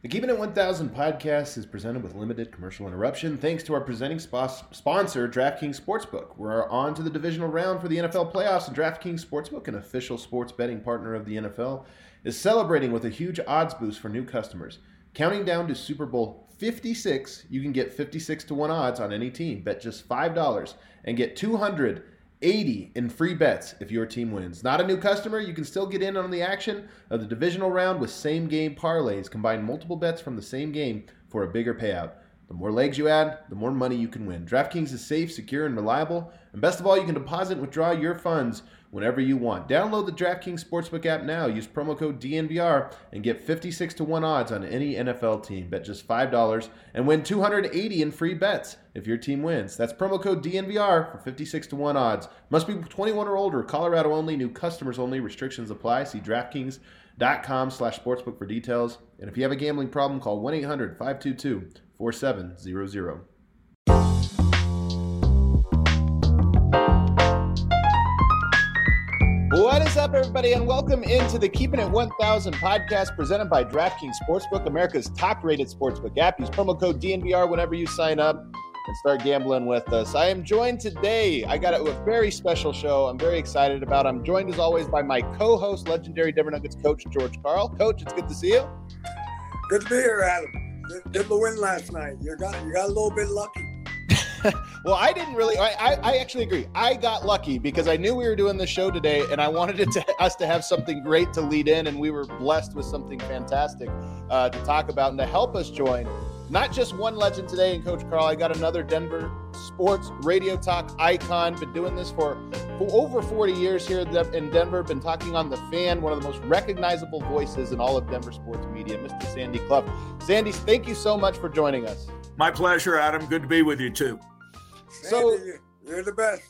The Keeping It 1000 podcast is presented with limited commercial interruption thanks to our presenting sponsor, DraftKings Sportsbook. We're on to the divisional round for the NFL playoffs, and DraftKings Sportsbook, an official sports betting partner of the NFL, is celebrating with a huge odds boost for new customers. Counting down to Super Bowl 56, you can get 56 to 1 odds on any team. Bet just $5 and get $280 in free bets if your team wins. Not a new customer? You can still get in on the action of the divisional round with same-game parlays. Combine multiple bets from the same game for a bigger payout. The more legs you add, the more money you can win. DraftKings is safe, secure, and reliable. And best of all, you can deposit and withdraw your funds whenever you want. Download the DraftKings Sportsbook app now. Use promo code DNVR and get 56 to 1 odds on any NFL team. Bet just $5 and win $280 in free bets if your team wins. That's promo code DNVR for 56 to 1 odds. Must be 21 or older. Colorado only. New customers only. Restrictions apply. See DraftKings.com/sportsbook for details. And if you have a gambling problem, call 1-800-522-4700. What is up, everybody, and welcome into the Keeping It 1000 podcast presented by DraftKings Sportsbook, America's top-rated sportsbook app. Use promo code DNVR whenever you sign up and start gambling with us. I am joined today. I got a very special show I'm very excited about. I'm joined, as always, by my co-host, legendary Denver Nuggets coach, George Karl. Coach, it's good to see you. Good to be here, Adam. Good to win last night. You got a little bit lucky. Well, I didn't really. I actually agree. I got lucky because I knew we were doing this show today, and I wanted us to have something great to lead in, and we were blessed with something fantastic to talk about and to help us join. Not just one legend today in Coach Karl. I got another Denver sports radio talk icon. Been doing this for over 40 years here in Denver. Been talking on The Fan, one of the most recognizable voices in all of Denver sports media, Mr. Sandy Clough. Sandy, thank you so much for joining us. My pleasure, Adam. Good to be with you, too. So you're the best.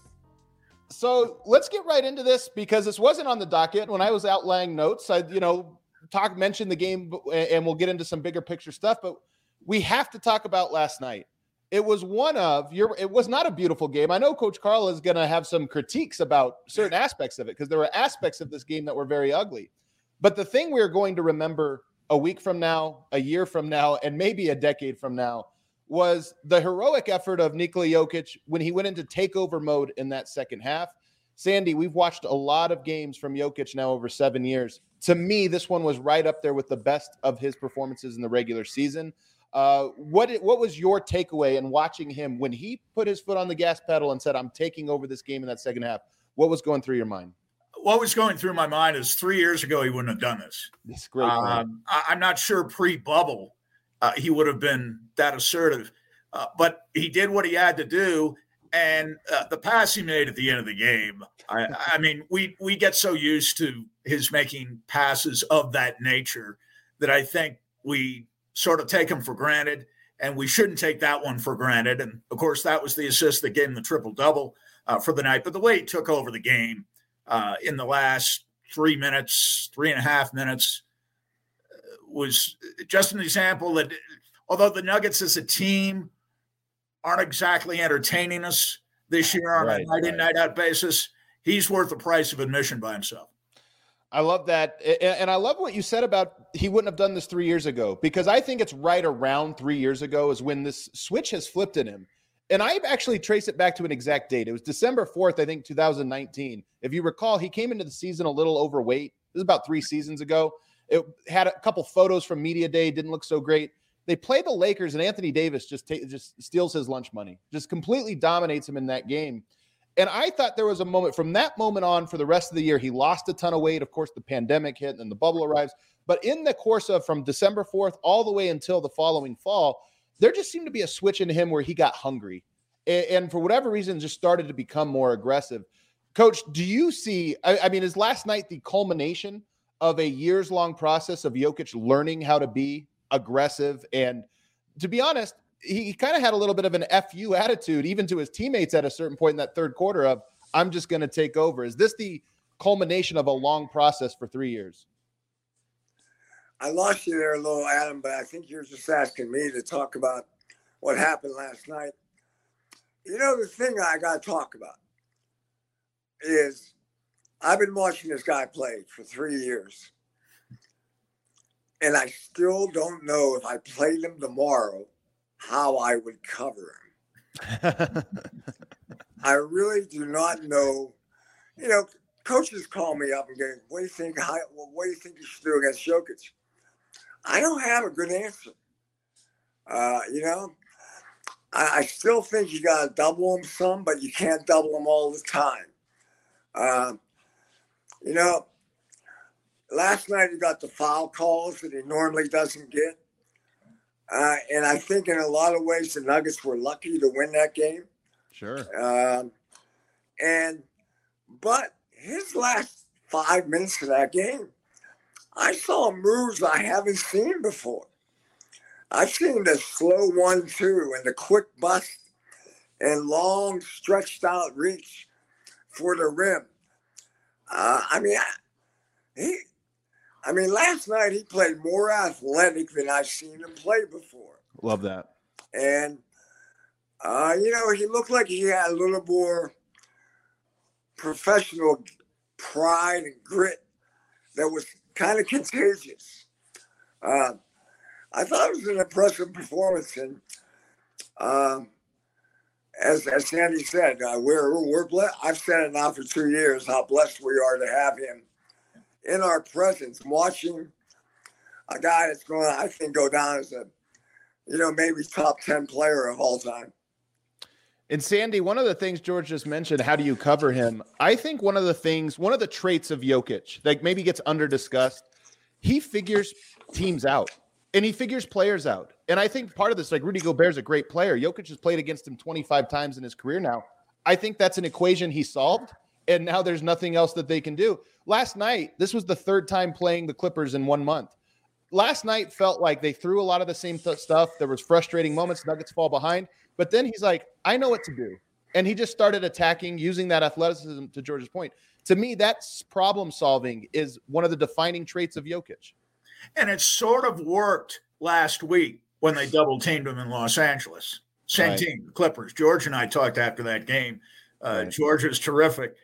So let's get right into this because this wasn't on the docket when I was outlining notes. I, mentioned the game, and we'll get into some bigger picture stuff. But we have to talk about last night. It was it was not a beautiful game. I know Coach Karl is going to have some critiques about certain aspects of it because there were aspects of this game that were very ugly. But the thing we're going to remember a week from now, a year from now, and maybe a decade from now was the heroic effort of Nikola Jokic when he went into takeover mode in that second half. Sandy, we've watched a lot of games from Jokic now over 7 years. To me, this one was right up there with the best of his performances in the regular season. What was your takeaway in watching him when he put his foot on the gas pedal and said, I'm taking over this game in that second half? What was going through your mind? What was going through my mind is 3 years ago, he wouldn't have done this. That's great. I'm not sure pre-bubble he would have been that assertive, but he did what he had to do. And the pass he made at the end of the game, I mean, we get so used to his making passes of that nature that I think we sort of take him for granted, and we shouldn't take that one for granted. And, of course, that was the assist that gave him the triple-double for the night. But the way he took over the game in the last 3.5 minutes, was just an example that although the Nuggets as a team aren't exactly entertaining us this year on a night-in, night-out basis, he's worth the price of admission by himself. I love that. And I love what you said about he wouldn't have done this 3 years ago, because I think it's right around 3 years ago is when this switch has flipped in him. And I've actually traced it back to an exact date. It was December 4th, I think, 2019. If you recall, he came into the season a little overweight. This was about 3 seasons ago. It had a couple photos from Media Day, didn't look so great. They play the Lakers, and Anthony Davis just steals his lunch money, just completely dominates him in that game. And I thought there was a moment from that moment on for the rest of the year. He lost a ton of weight. Of course, the pandemic hit and the bubble arrives. But in the course of from December 4th all the way until the following fall, there just seemed to be a switch in him where he got hungry. And for whatever reason, just started to become more aggressive. Coach, do you see, I mean, is last night the culmination of a years-long process of Jokic learning how to be aggressive? And to be honest, he kind of had a little bit of an FU attitude, even to his teammates at a certain point in that third quarter of, I'm just going to take over. Is this the culmination of a long process for 3 years? I lost you there a little, Adam, but I think you're just asking me to talk about what happened last night. You know, the thing I got to talk about is I've been watching this guy play for 3 years. And I still don't know if I played him tomorrow, how I would cover him. I really do not know. You know, coaches call me up and go, what do you think you should do against Jokic? I don't have a good answer. I still think you got to double him some, but you can't double him all the time. Last night he got the foul calls that he normally doesn't get. And I think in a lot of ways the Nuggets were lucky to win that game. Sure. But his last 5 minutes of that game, I saw moves I haven't seen before. I've seen the slow 1-2 and the quick bust and long stretched out reach for the rim. Last night he played more athletic than I've seen him play before. Love that. And, he looked like he had a little more professional pride and grit that was kind of contagious. I thought it was an impressive performance. And as Sandy said, we're blessed. I've said it now for 2 years, how blessed we are to have him in our presence, watching a guy that's going to, I think, go down as a, maybe top 10 player of all time. And Sandy, one of the things George just mentioned, how do you cover him? I think one of the traits of Jokic that maybe gets under discussed, he figures teams out and he figures players out. And I think part of this, like Rudy Gobert's a great player. Jokic has played against him 25 times in his career now. I think that's an equation he solved. And now there's nothing else that they can do. Last night, this was the third time playing the Clippers in 1 month. Last night felt like they threw a lot of the same stuff. There was frustrating moments. Nuggets fall behind. But then he's like, I know what to do. And he just started attacking, using that athleticism, to George's point. To me, that's problem solving is one of the defining traits of Jokic. And it sort of worked last week when they double teamed him in Los Angeles. Same team, the Clippers. George and I talked after that game. George is terrific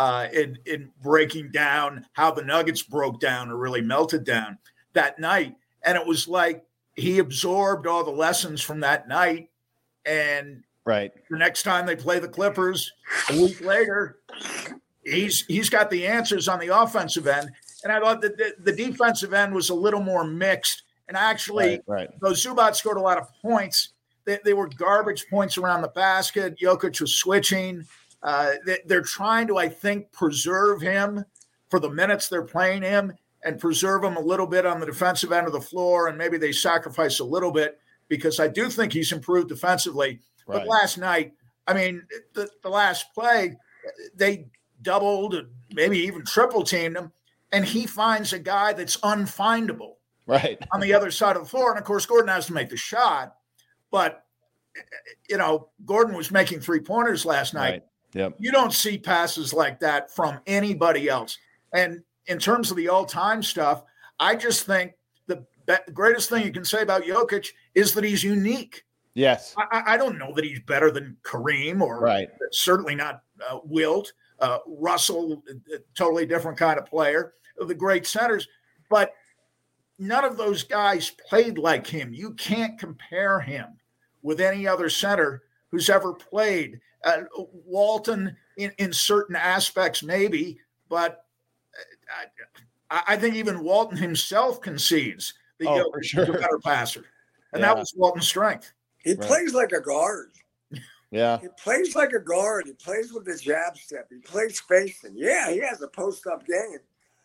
in breaking down how the Nuggets broke down or really melted down that night. And it was like he absorbed all the lessons from that night. And the next time they play the Clippers a week later, he's got the answers on the offensive end. And I thought that the defensive end was a little more mixed. And actually, though Zubac scored a lot of points, they were garbage points around the basket. Jokic was switching. They're trying to, I think, preserve him for the minutes they're playing him and preserve him a little bit on the defensive end of the floor. And maybe they sacrifice a little bit because I do think he's improved defensively. But last night, the last play, they doubled, maybe even triple teamed him. And he finds a guy that's unfindable on the other side of the floor. And, of course, Gordon has to make the shot. But, Gordon was making three-pointers last night. Yep. You don't see passes like that from anybody else. And in terms of the all-time stuff, I just think the greatest thing you can say about Jokic is that he's unique. Yes. I don't know that he's better than Kareem or certainly not Wilt. Russell, totally different kind of player, the great centers. But none of those guys played like him. You can't compare him with any other center who's ever played. Walton in certain aspects, maybe, but I think even Walton himself concedes that Jokic is a better passer. And that was Walton's strength. He plays like a guard. Yeah. He plays like a guard. He plays with the jab step. He plays spacing. Yeah, he has a post-up game.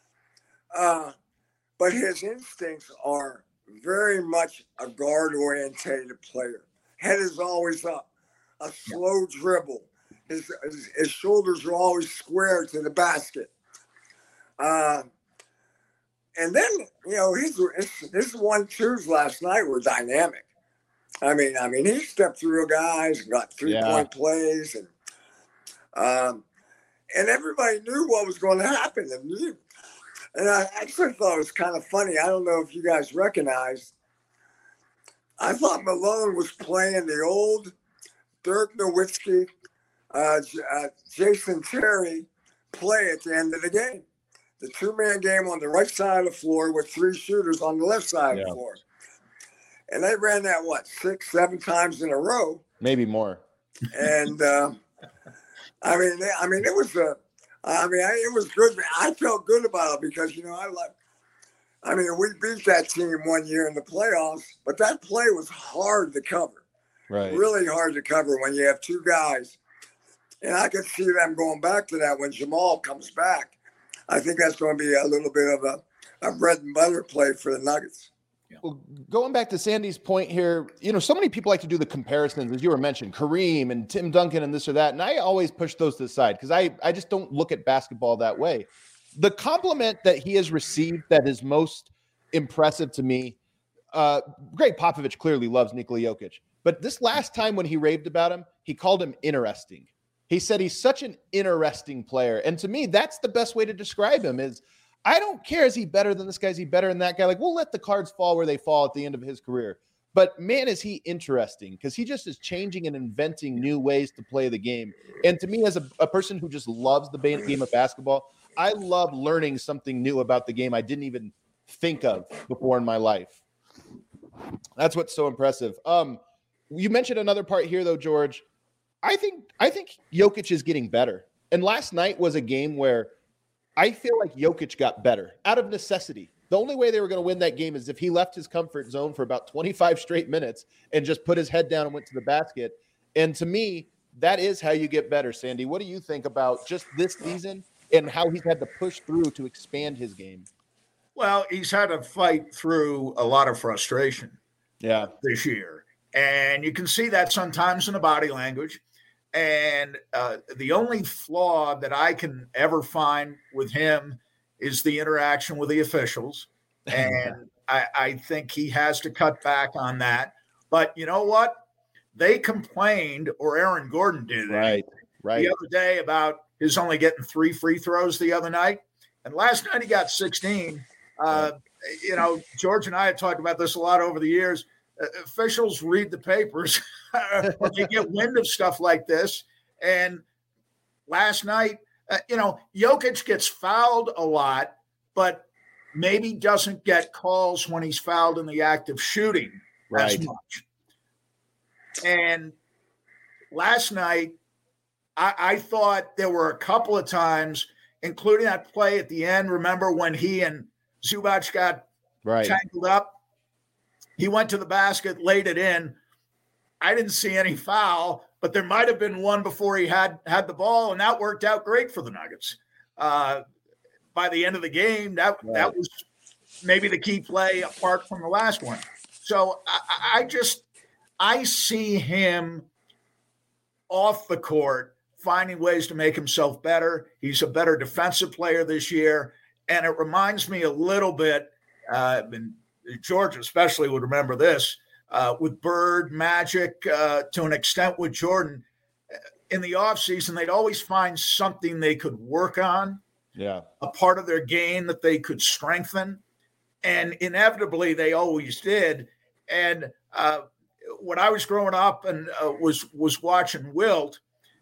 But his instincts are very much a guard-orientated player. Head is always up. A slow dribble. His shoulders are always square to the basket. And then, his 1-2s last night were dynamic. I mean, he stepped through guys and got 3-point plays, and everybody knew what was going to happen. And I actually thought it was kind of funny. I don't know if you guys recognized. I thought Malone was playing the old Dirk Nowitzki, Jason Terry play at the end of the game. the two-man game on the right side of the floor with 3 shooters on the left side of the floor. And they ran that, 6, 7 times in a row. Maybe more. And, it was it was good. I felt good about it because, we beat that team one year in the playoffs, but that play was hard to cover. Right. Really hard to cover when you have 2 guys. And I could see them going back to that when Jamal comes back. I think that's going to be a little bit of a bread and butter play for the Nuggets. Well, going back to Sandy's point here, so many people like to do the comparisons, as you were mentioning, Kareem and Tim Duncan and this or that. And I always push those to the side because I just don't look at basketball that way. The compliment that he has received that is most impressive to me, Greg Popovich clearly loves Nikola Jokic. But this last time when he raved about him, he called him interesting. He said he's such an interesting player. And to me, that's the best way to describe him is, I don't care. Is he better than this guy? Is he better than that guy? Like, we'll let the cards fall where they fall at the end of his career. But man, is he interesting because he just is changing and inventing new ways to play the game. And to me, as a person who just loves the game of basketball, I love learning something new about the game I didn't even think of before in my life. That's what's so impressive. You mentioned another part here, though, George. I think Jokic is getting better. And last night was a game where I feel like Jokic got better out of necessity. The only way they were going to win that game is if he left his comfort zone for about 25 straight minutes and just put his head down and went to the basket. And to me, that is how you get better, Sandy. What do you think about just this season and how he's had to push through to expand his game? Well, he's had to fight through a lot of frustration this year. And you can see that sometimes in the body language. And the only flaw that I can ever find with him is the interaction with the officials. And I think he has to cut back on that. But you know what? They complained, or Aaron Gordon did right. the other day about his only getting 3 free throws the other night. And last night he got 16. George and I have talked about this a lot over the years. Officials read the papers when they get wind of stuff like this. And last night, Jokic gets fouled a lot, but maybe doesn't get calls when he's fouled in the act of shooting as much. And last night, I thought there were a couple of times, including that play at the end. Remember when he and Zubac got tangled up? He went to the basket, laid it in. I didn't see any foul, but there might have been one before he had the ball, and that worked out great for the Nuggets. By the end of the game, that was maybe the key play apart from the last one. So I see him off the court finding ways to make himself better. He's a better defensive player this year, and it reminds me a little bit, and George especially would remember this, with Bird, Magic, to an extent with Jordan. In the offseason, they'd always find something they could work on, a part of their game that they could strengthen. And inevitably, they always did. And when I was growing up and was watching Wilt,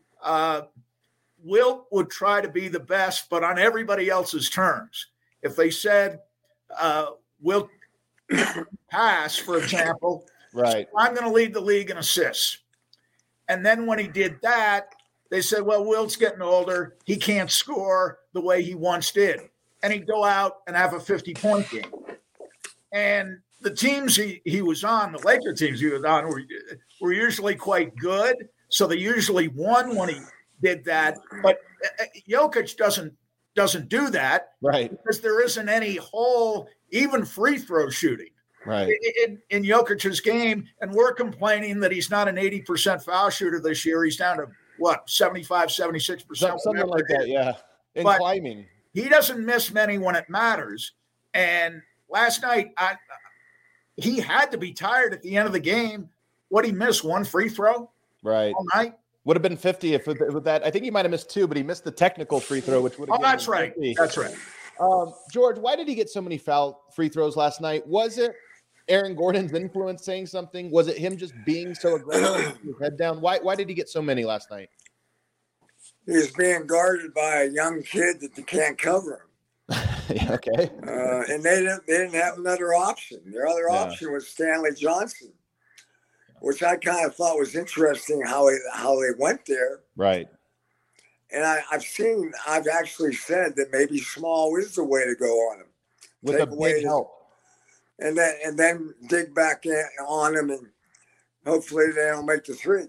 Wilt would try to be the best, but on everybody else's terms. If they said, Wilt pass, for example, I'm going to lead the league in assists. And then when he did that, they said, well, Wilt's getting older. He can't score the way he once did. And he'd go out and have a 50-point game. And the teams he was on, the Laker teams he was on, were usually quite good. So they usually won when he did that. But Jokic doesn't do that. Because there isn't any whole, even free throw shooting in Jokic's game. And we're complaining that he's not an 80% foul shooter this year. He's down to, 75, 76%? Something like that, And but climbing. He doesn't miss many when it matters. And last night, he had to be tired at the end of the game. What he missed, 1 free throw all night? Would have been 50 if with that. I think he might have missed 2, but he missed the technical free throw, which would have that's right. 50. That's right. George, why did he get so many foul free throws last night? Was it Aaron Gordon's influence saying something? Was it him just being so aggressive with his head down? Why did he get so many last night? He was being guarded by a young kid that they can't cover him. Okay. And they didn't have another option. Their other option was Stanley Johnson, which I kind of thought was interesting how they went there. Right. And I've actually said that maybe Small is the way to go on him. With a big help. And then dig back on him, and hopefully they don't make the three.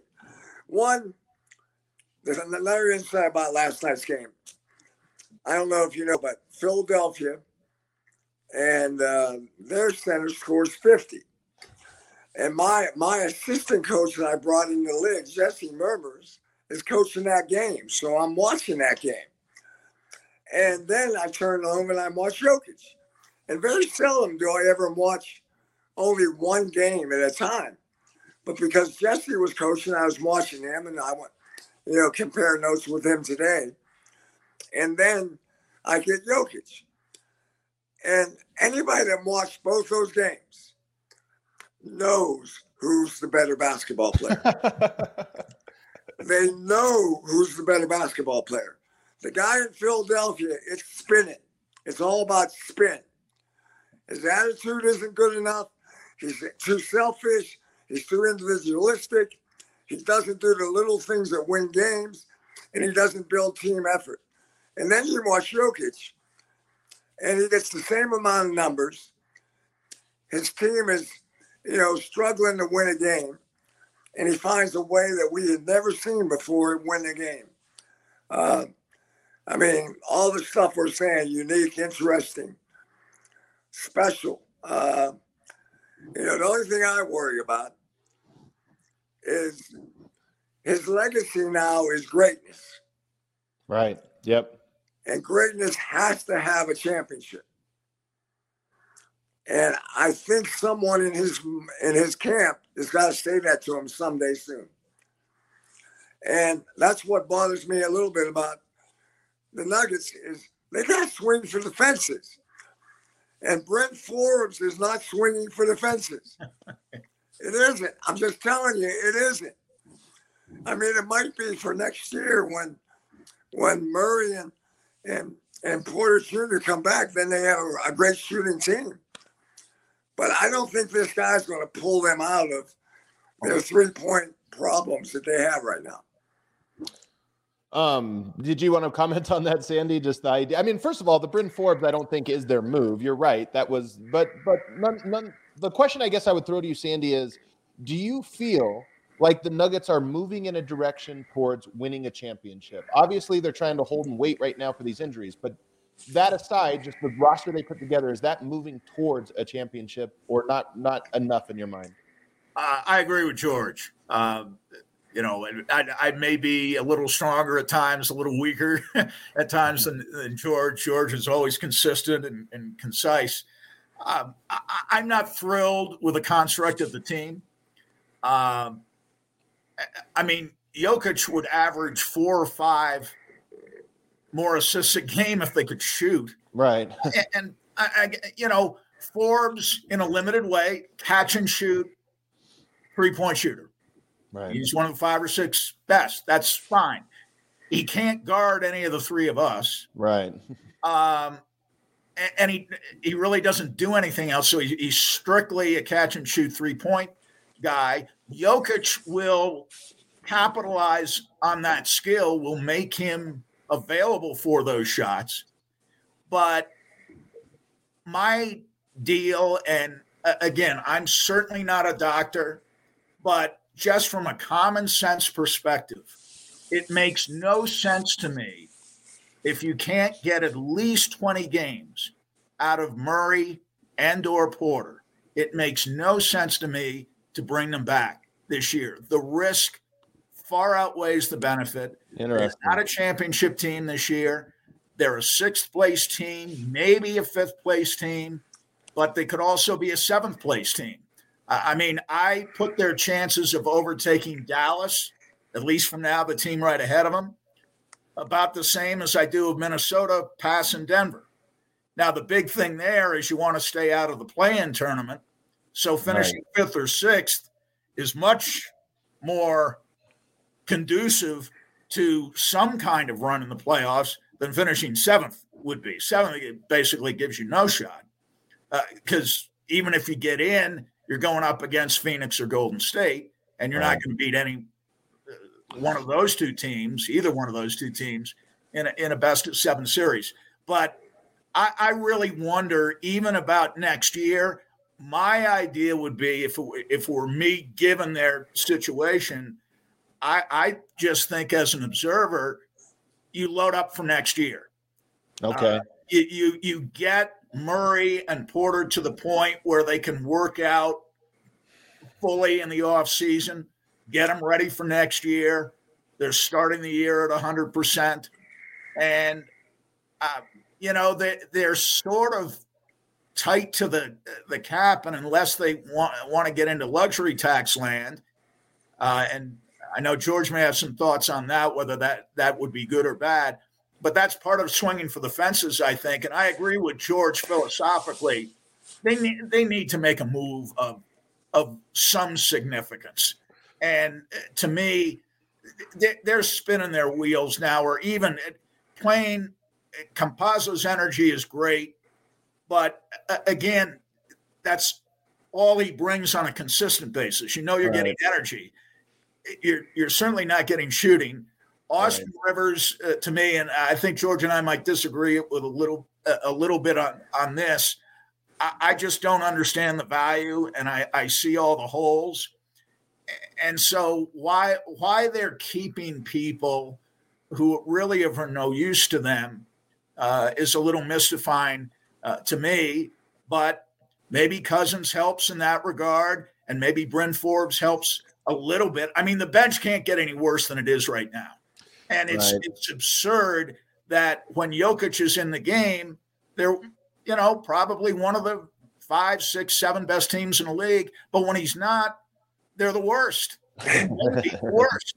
There's another insight about last night's game. I don't know if you know, but Philadelphia and their center scores 50. And my assistant coach that I brought in the league, Jesse Murmurs, is coaching that game. So I'm watching that game. And then I turn home and I watch Jokic. And very seldom do I ever watch only one game at a time. But because Jesse was coaching, I was watching him, and I went, compare notes with him today. And then I get Jokic. And anybody that watched both those games knows who's the better basketball player. They know who's the better basketball player. The guy in Philadelphia, it's spinning. It's all about spin. His attitude isn't good enough. He's too selfish. He's too individualistic. He doesn't do the little things that win games, and he doesn't build team effort. And then you watch Jokic, and he gets the same amount of numbers. His team is, struggling to win a game, and he finds a way that we had never seen before win a game. All the stuff we're saying, unique, interesting, special. The only thing I worry about is his legacy now is greatness. Right. Yep. And greatness has to have a championship. And I think someone in his camp has got to say that to him someday soon. And that's what bothers me a little bit about the Nuggets is they got to swing for the fences. And Brent Forbes is not swinging for the fences. It isn't. I'm just telling you, it isn't. It might be for next year when Murray and Porter Jr. come back, then they have a great shooting team. But I don't think this guy's going to pull them out of their 3-point problems that they have right now. Did you want to comment on that, Sandy? Just the idea. First of all, the Bryn Forbes, I don't think is their move. You're right. That was, but none. The question I guess I would throw to you, Sandy, is: do you feel like the Nuggets are moving in a direction towards winning a championship? Obviously, they're trying to hold and wait right now for these injuries, but that aside, just the roster they put together, is that moving towards a championship or not enough in your mind? I agree with George. I may be a little stronger at times, a little weaker at times than George. George is always consistent and concise. I'm not thrilled with the construct of the team. Jokic would average 4 or 5 more assists a game if they could shoot. Right. And Forbes in a limited way, catch and shoot, 3-point shooter. Right. He's one of the 5 or 6 best. That's fine. He can't guard any of the 3 of us. Right. And he really doesn't do anything else. So he's strictly a catch and shoot 3-point guy. Jokic will capitalize on that skill, will make him available for those shots. But my deal, and again, I'm certainly not a doctor, but just from a common sense perspective, it makes no sense to me if you can't get at least 20 games out of Murray and or Porter. It makes no sense to me to bring them back this year. The risk far outweighs the benefit. They're not a championship team this year. They're a 6th place team, maybe a 5th place team, but they could also be a 7th place team. I put their chances of overtaking Dallas, at least from now, the team right ahead of them, about the same as I do of Minnesota passing Denver. Now, the big thing there is you want to stay out of the play-in tournament. So finishing 5th or 6th is much more conducive to some kind of run in the playoffs than finishing 7th would be. 7 basically gives you no shot because even if you get in, you're going up against Phoenix or Golden State, and you're not going to beat any one of those two teams, either one of those two teams, in a best of 7 series. But I really wonder, even about next year. My idea would be, if it were me, given their situation, I just think as an observer, you load up for next year. Okay. You get Murray and Porter to the point where they can work out fully in the off season, get them ready for next year. They're starting the year at 100%. And, they're sort of tight to the cap, and unless they want to get into luxury tax land, and I know George may have some thoughts on that, whether that would be good or bad, but that's part of swinging for the fences, I think. And I agree with George philosophically. They need to make a move of some significance. And to me, they're spinning their wheels now, or even playing Campazzo's energy is great. But again, that's all he brings on a consistent basis. You're getting energy. You're certainly not getting shooting. Austin Rivers, to me, and I think George and I might disagree with a little bit on this. I just don't understand the value, and I see all the holes. And so why they're keeping people who really are of no use to them is a little mystifying to me, but maybe Cousins helps in that regard, and maybe Bryn Forbes helps a little bit. I mean, the bench can't get any worse than it is right now. And it's absurd that when Jokic is in the game, they're, probably one of the 5, 6, 7 best teams in the league. But when he's not, they're the worst. The worst.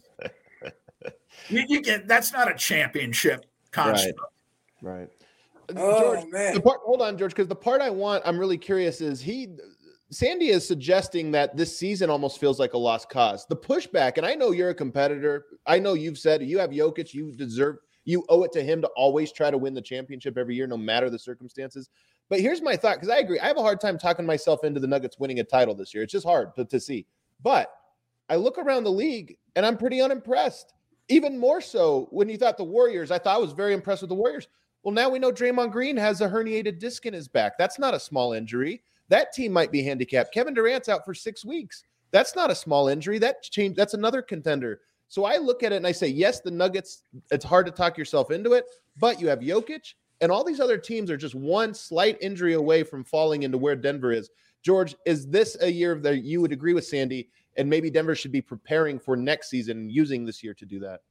That's not a championship construct. Right. Oh, George, man. Hold on, George, because the part I'm really curious is Sandy is suggesting that this season almost feels like a lost cause. The pushback, and I know you're a competitor. I know you've said you have Jokic, you owe it to him to always try to win the championship every year, no matter the circumstances. But here's my thought, because I agree. I have a hard time talking myself into the Nuggets winning a title this year. It's just hard to see. But I look around the league, and I'm pretty unimpressed. Even more so when you thought the Warriors. I thought I was very impressed with the Warriors. Well, now we know Draymond Green has a herniated disc in his back. That's not a small injury. That team might be handicapped. Kevin Durant's out for 6 weeks. That's not a small injury. That's another contender. So I look at it and I say, yes, the Nuggets, it's hard to talk yourself into it, but you have Jokic, and all these other teams are just one slight injury away from falling into where Denver is. George, is this a year that you would agree with Sandy, and maybe Denver should be preparing for next season and using this year to do that?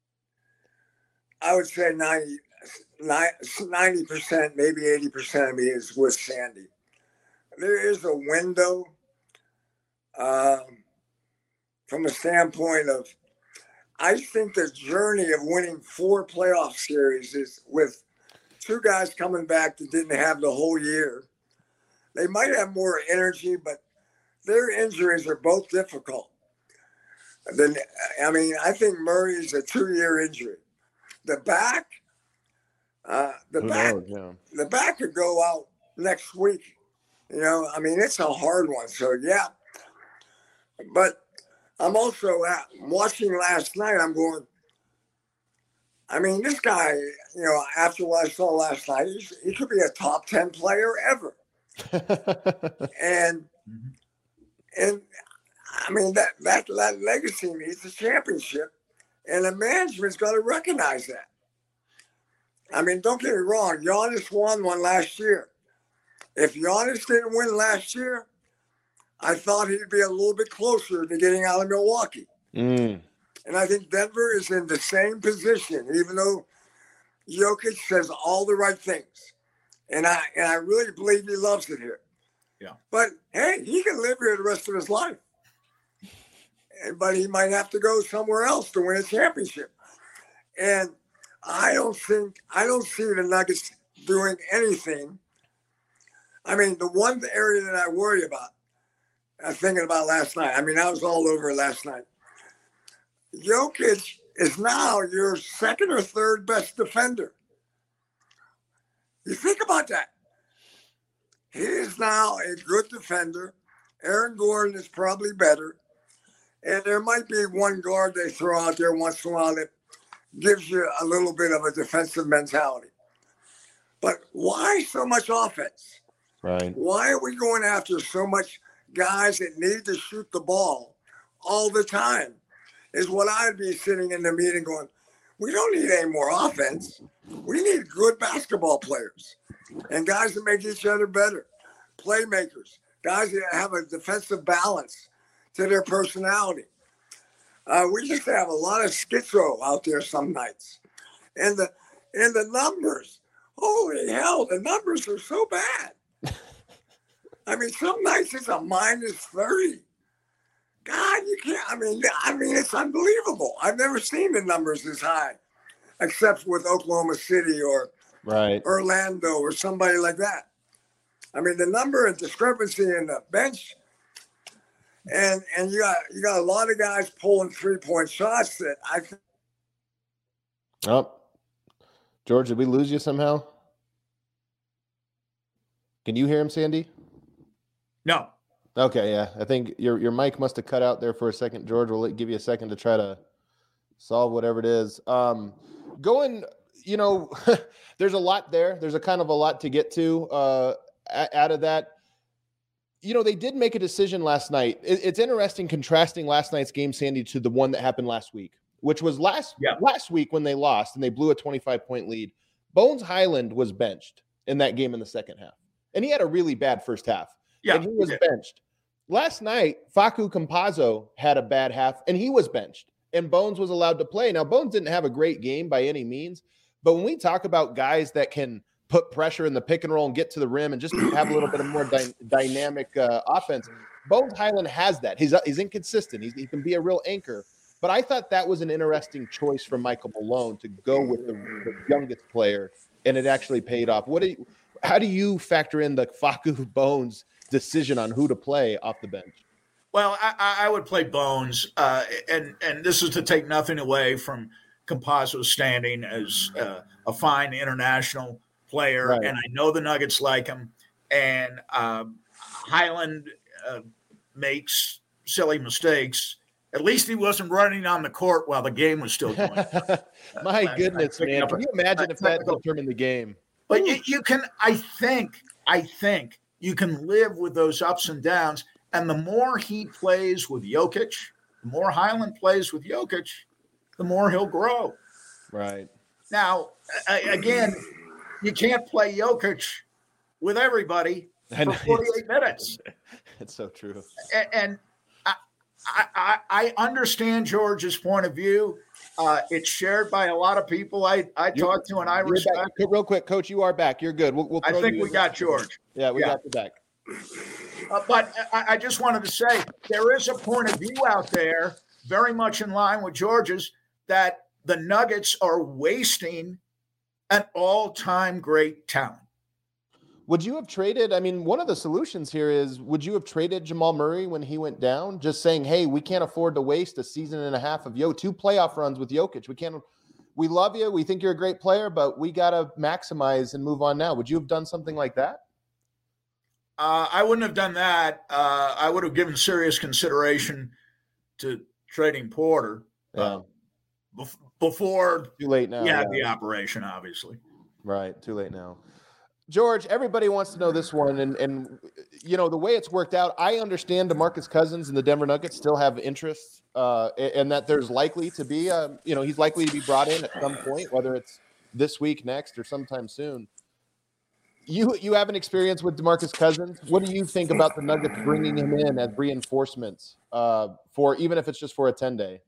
I would say 90%, maybe 80% of me is with Sandy. There is a window from a standpoint of, I think the journey of winning 4 playoff series is with 2 guys coming back that didn't have the whole year. They might have more energy, but their injuries are both difficult. I think Murray's a 2-year injury. The back could go out next week. It's a hard one. So, yeah. But I'm also watching last night. I'm going, this guy, after what I saw last night, he could be a top 10 player ever. and that legacy needs a championship, and the management's got to recognize that. Don't get me wrong. Giannis won one last year. If Giannis didn't win last year, I thought he'd be a little bit closer to getting out of Milwaukee. And I think Denver is in the same position, even though Jokic says all the right things. And I really believe he loves it here. Yeah. But, hey, he can live here the rest of his life. But he might have to go somewhere else to win a championship. And I don't see the Nuggets doing anything. The one area that I worry about, I was thinking about last night. I was all over it last night. Jokic is now your second or third best defender. You think about that. He is now a good defender. Aaron Gordon is probably better. And there might be one guard they throw out there once in a while that gives you a little bit of a defensive mentality. But why so much offense? Right. Why are we going after so much guys that need to shoot the ball all the time? Is what I'd be sitting in the meeting going, we don't need any more offense. We need good basketball players and guys that make each other better, playmakers, guys that have a defensive balance to their personality. We just have a lot of schizo out there some nights. And the numbers, holy hell, the numbers are so bad. I mean, some nights it's a -30. God, you can't. I mean, it's unbelievable. I've never seen the numbers this high, except with Oklahoma City or Orlando or somebody like that. I mean, the number and discrepancy in the bench, and you got a lot of guys pulling 3-point shots that I think. Oh, George, did we lose you somehow? Can you hear him, Sandy? No. Okay, yeah. I think your mic must have cut out there for a second, George. We'll give you a second to try to solve whatever it is. Going, there's a lot there. There's a kind of a lot to get to out of that. They did make a decision last night. It's interesting contrasting last night's game, Sandy, to the one that happened last week, which was last week when they lost and they blew a 25-point lead. Bones Hyland was benched in that game in the second half, and he had a really bad first half. Yeah, and he was benched. Last night, Facu Campazzo had a bad half, and he was benched, and Bones was allowed to play. Now, Bones didn't have a great game by any means, but when we talk about guys that can put pressure in the pick and roll and get to the rim and just have a little bit of more dynamic offense, Bones Hyland has that. He's inconsistent. He can be a real anchor. But I thought that was an interesting choice from Michael Malone to go with the youngest player, and it actually paid off. How do you factor in the Facu Bones decision on who to play off the bench? Well, I would play Bones, and this is to take nothing away from Campazzo's standing as a fine international player, right. And I know the Nuggets like him, and Hyland makes silly mistakes. At least he wasn't running on the court while the game was still going. My goodness, man. Can you imagine if that determined the game? But you can, I think you can live with those ups and downs. And the more he plays with Jokic, the more Hyland plays with Jokic, the more he'll grow. Right. Now, again, you can't play Jokic with everybody for 48 minutes. It's so true. And I understand George's point of view. It's shared by a lot of people I talk to, and I respect. Real quick, Coach, you are back. You're good. We'll I think we got George. Yeah, we got you back. But I just wanted to say there is a point of view out there, very much in line with George's, that the Nuggets are wasting an all-time great talent. Would you have traded? I mean, one of the solutions here is, would you have traded Jamal Murray when he went down? Just saying, hey, we can't afford to waste a season and a half of 2 playoff runs with Jokic. We love you. We think you're a great player, but we got to maximize and move on now. Would you have done something like that? I wouldn't have done that. I would have given serious consideration to trading Porter before too late now. Yeah, the operation, obviously. Right, too late now. George, everybody wants to know this one, and the way it's worked out, I understand DeMarcus Cousins and the Denver Nuggets still have interest, and that there's likely to be, he's likely to be brought in at some point, whether it's this week, next, or sometime soon. You have an experience with DeMarcus Cousins. What do you think about the Nuggets bringing him in as reinforcements for, even if it's just for a 10-day?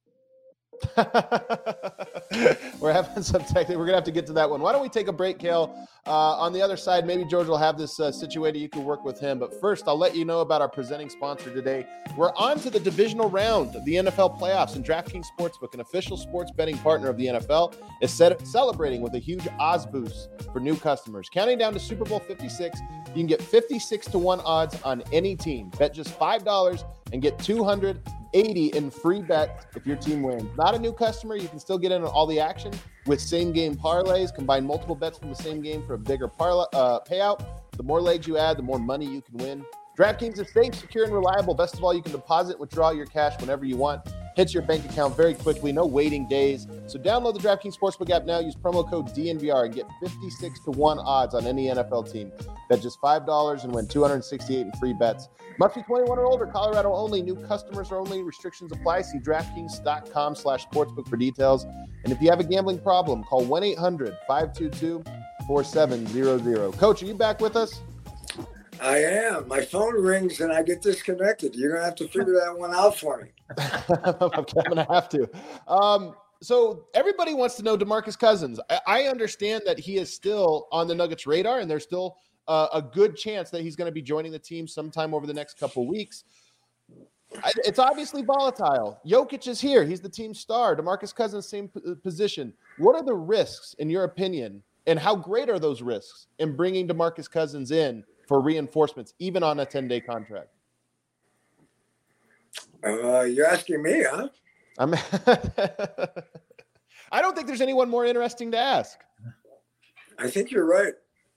We're having some technical. We're gonna have to get to that one. Why don't we take a break, Kale? On the other side, maybe George will have this situated. You can work with him. But first, I'll let you know about our presenting sponsor today. We're on to the divisional round of the NFL playoffs, and DraftKings Sportsbook, an official sports betting partner of the NFL, is celebrating with a huge odds boost for new customers. Counting down to Super Bowl 56, you can get 56-1 odds on any team. Bet just $5 and get $200 $80 in free bets if your team wins. Not a new customer, you can still get in on all the action with same-game parlays. Combine multiple bets from the same game for a bigger payout. The more legs you add, the more money you can win. DraftKings is safe, secure, and reliable. Best of all, you can deposit and withdraw your cash whenever you want. Hits your bank account very quickly, no waiting days. So download the DraftKings Sportsbook app now. Use promo code DNVR and get 56-1 odds on any NFL team. Bet just $5 and win $268 in free bets. Must be 21 or older. Colorado only. New customers only. Restrictions apply. See DraftKings.com/sportsbook for details. And if you have a gambling problem, call 1-800-522-4700. Coach, are you back with us? I am. My phone rings and I get disconnected. You're going to have to figure that one out for me. I'm going to have to. So everybody wants to know DeMarcus Cousins. I understand that he is still on the Nuggets radar, and there's still a good chance that he's going to be joining the team sometime over the next couple weeks. It's obviously volatile. Jokic is here. He's the team star. DeMarcus Cousins, same position. What are the risks, in your opinion, and how great are those risks in bringing DeMarcus Cousins in for reinforcements, even on a 10-day contract? You're asking me, huh? I don't think there's anyone more interesting to ask. I think you're right.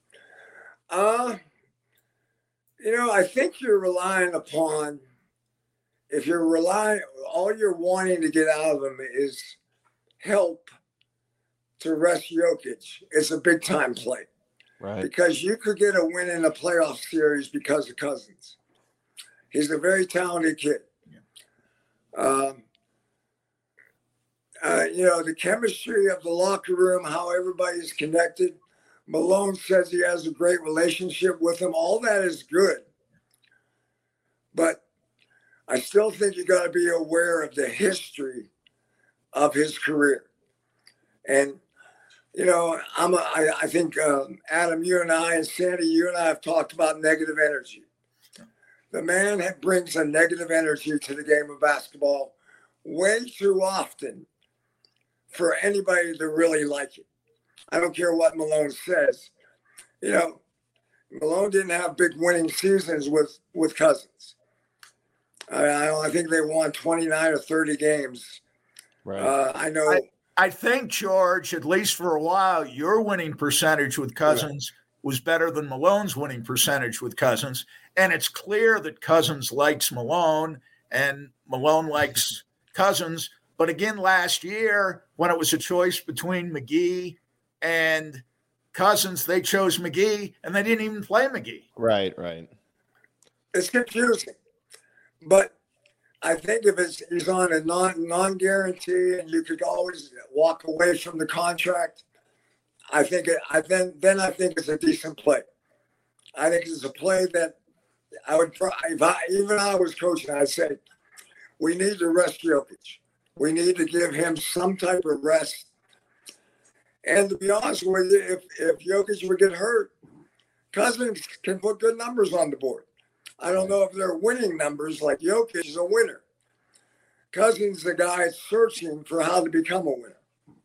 I think you're relying upon, all you're wanting to get out of him is help to rest Jokic. It's a big time play. Right. Because you could get a win in a playoff series because of Cousins. He's a very talented kid. The chemistry of the locker room, how everybody's connected. Malone says he has a great relationship with him. All that is good. But I still think you got to be aware of the history of his career. And I think Adam, you and I, and Sandy, you and I have talked about negative energy. The man brings a negative energy to the game of basketball way too often for anybody to really like it. I don't care what Malone says. Malone didn't have big winning seasons with Cousins. I think they won 29 or 30 games. Right. I think, George, at least for a while, your winning percentage with Cousins was better than Malone's winning percentage with Cousins. And it's clear that Cousins likes Malone and Malone likes Cousins. But again, last year, when it was a choice between McGee and Cousins, they chose McGee, and they didn't even play McGee. Right. It's confusing. But I think if he's on a non-guarantee and you could always walk away from the contract, I think it's a decent play. I think it's a play that I would if I was coaching, I'd say we need to rest Jokic. We need to give him some type of rest. And to be honest with you, if Jokic would get hurt, Cousins can put good numbers on the board. I don't know if they're winning numbers like Jokic is a winner. Cousins is the guy searching for how to become a winner.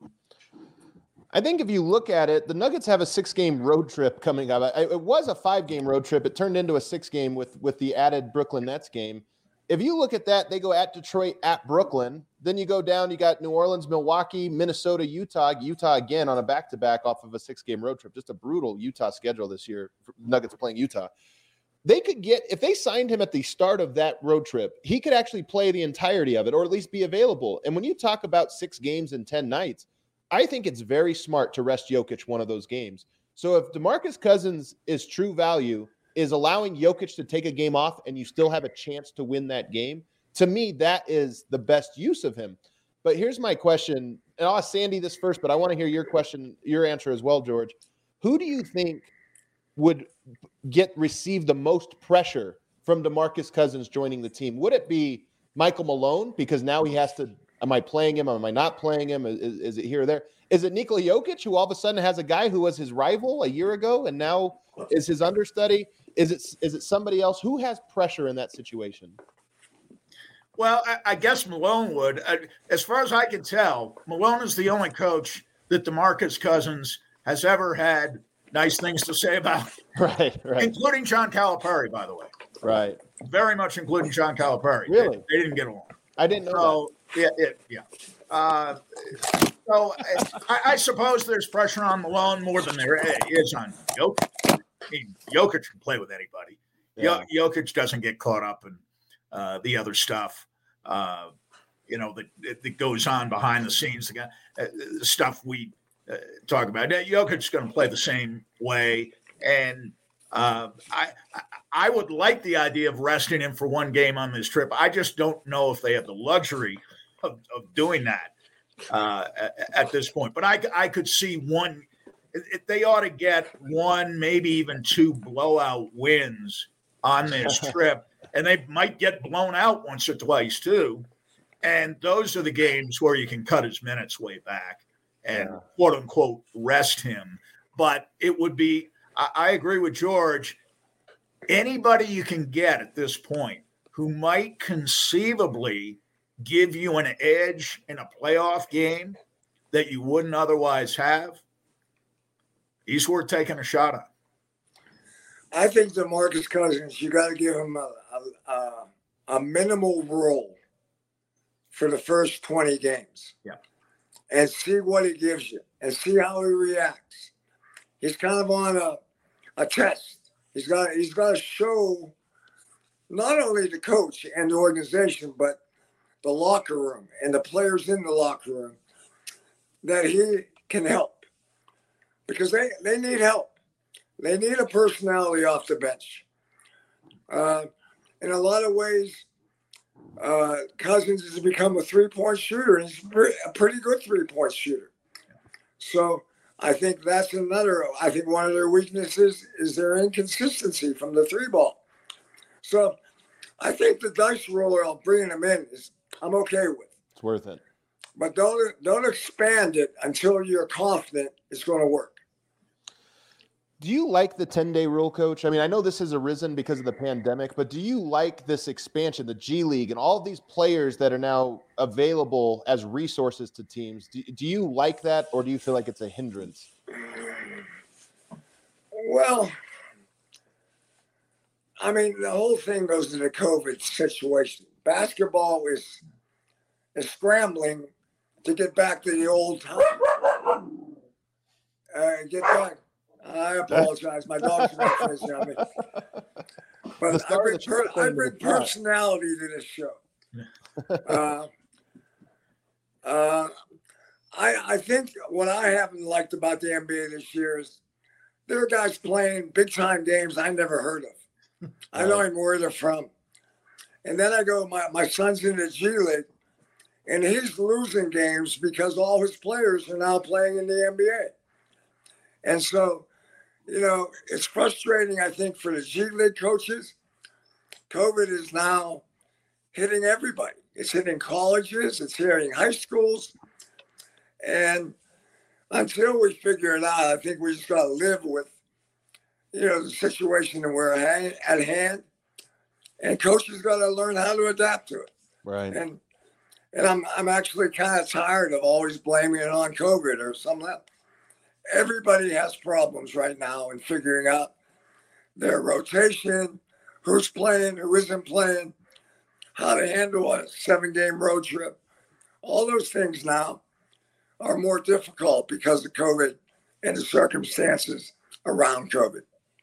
I think if you look at it, the Nuggets have a 6-game road trip coming up. It was a 5-game road trip. It turned into a 6-game with the added Brooklyn Nets game. If you look at that, they go at Detroit, at Brooklyn. Then you go down, you got New Orleans, Milwaukee, Minnesota, Utah again on a back-to-back off of a 6-game road trip. Just a brutal Utah schedule this year. Nuggets playing Utah. They could get, if they signed him at the start of that road trip, he could actually play the entirety of it or at least be available. And when you talk about 6 games in 10 nights, I think it's very smart to rest Jokic one of those games. So if DeMarcus Cousins is true value, is allowing Jokic to take a game off and you still have a chance to win that game, to me, that is the best use of him. But here's my question, and I'll ask Sandy this first, but I want to hear your answer as well, George. Who do you think would receive the most pressure from DeMarcus Cousins joining the team? Would it be Michael Malone? Because now he has to, am I playing him? Am I not playing him? Is it here or there? Is it Nikola Jokic, who all of a sudden has a guy who was his rival a year ago and now is his understudy? Is it somebody else? Who has pressure in that situation? Well, I guess Malone would. As far as I can tell, Malone is the only coach that DeMarcus Cousins has ever had nice things to say about. Right. Including John Calipari, by the way. Right. Very much including John Calipari. Really? They didn't get along. I didn't know that. So I suppose there's pressure on Malone more than there is on Jokic. I mean, Jokic can play with anybody. Yeah. Jokic doesn't get caught up in the other stuff, that goes on behind the scenes. The stuff we talk about. Jokic's going to play the same way, and I would like the idea of resting him for one game on this trip. I just don't know if they have the luxury of doing that at this point. But I could see one. They ought to get one, maybe even two blowout wins on this trip, and they might get blown out once or twice too. And those are the games where you can cut his minutes way back and quote unquote rest him. But it would be, I agree with George, anybody you can get at this point who might conceivably give you an edge in a playoff game that you wouldn't otherwise have, he's worth taking a shot on. I think DeMarcus Cousins, you got to give him a minimal role for the first 20 games. Yeah. And see what he gives you and see how he reacts. He's kind of on a test. He's got to show not only the coach and the organization, but the locker room and the players in the locker room that he can help, because they need help. They need a personality off the bench. In a lot of ways, Cousins has become a three-point shooter, and he's a pretty good three-point shooter. So I think that's another. I think one of their weaknesses is their inconsistency from the three ball. So I think the dice roller of bringing him in I'm okay with. It's worth it. But don't expand it until you're confident it's going to work. Do you like the 10-day rule, Coach? I mean, I know this has arisen because of the pandemic, but do you like this expansion, the G League, and all of these players that are now available as resources to teams? Do you like that, or do you feel like it's a hindrance? Well, I mean, the whole thing goes to the COVID situation. Basketball is scrambling to get back to the old time. Get back. I apologize. My dog's crazy on me. But I bring personality to this show. I think what I haven't liked about the NBA this year is there are guys playing big-time games I never heard of. I don't even know where they're from. And then I go, my son's in the G League, and he's losing games because all his players are now playing in the NBA. And so, it's frustrating, I think, for the G League coaches. COVID is now hitting everybody. It's hitting colleges. It's hitting high schools. And until we figure it out, I think we just got to live with, the situation that we're at hand. And coaches got to learn how to adapt to it. Right. And I'm actually kind of tired of always blaming it on COVID or something else. Everybody has problems right now in figuring out their rotation, who's playing, who isn't playing, how to handle a 7-game road trip. All those things now are more difficult because of COVID and the circumstances around COVID.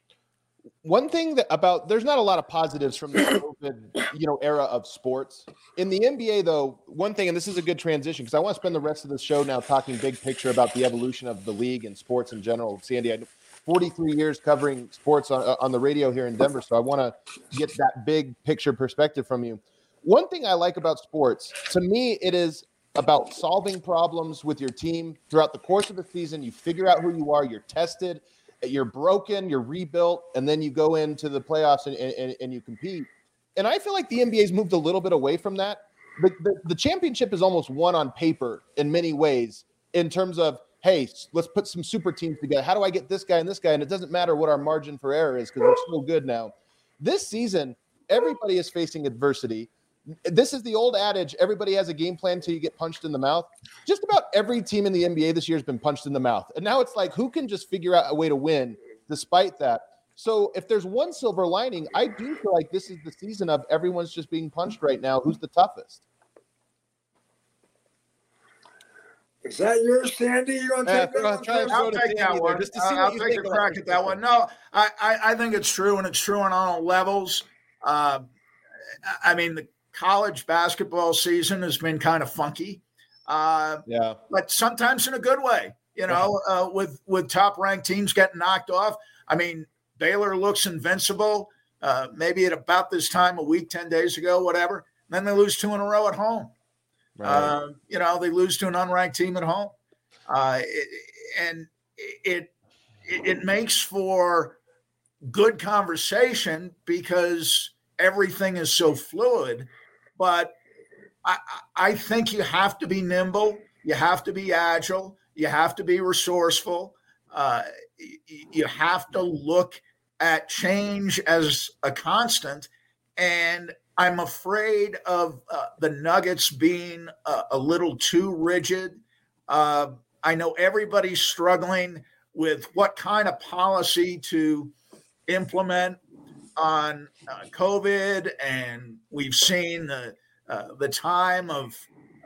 One thing there's not a lot of positives from the COVID, era of sports. In the NBA, though, one thing, and this is a good transition because I want to spend the rest of the show now talking big picture about the evolution of the league and sports in general. Sandy, I 43 years covering sports on the radio here in Denver, so I want to get that big picture perspective from you. One thing I like about sports, to me, it is about solving problems with your team throughout the course of the season. You figure out who you are, you're tested, you're broken, you're rebuilt, and then you go into the playoffs and you compete. And I feel like the NBA's moved a little bit away from that. The championship is almost won on paper in many ways in terms of, hey, let's put some super teams together. How do I get this guy and this guy? And it doesn't matter what our margin for error is because we're so good now. This season, everybody is facing adversity. This is the old adage, everybody has a game plan until you get punched in the mouth. Just about every team in the NBA this year has been punched in the mouth. And now it's like, who can just figure out a way to win despite that? So if there's one silver lining, I do feel like this is the season of everyone's just being punched right now. Who's the toughest? Is that yours, Sandy? You want to take that one? Try and first? throw I'll to take Sandy that there, one. just to see I'll what you take think a of crack at that one. No, I think it's true, and it's true on all levels. I mean, the college basketball season has been kind of funky, Yeah. but sometimes in a good way. With top ranked teams getting knocked off. I mean, Baylor looks invincible. Maybe at about this time, a week, 10 days ago, whatever. Then they lose 2 in a row at home. Right. They lose to an unranked team at home, and it makes for good conversation because everything is so fluid. But I think you have to be nimble, you have to be agile, you have to be resourceful, you have to look at change as a constant. And I'm afraid of the Nuggets being a little too rigid. I know everybody's struggling with what kind of policy to implement on COVID, and we've seen the time of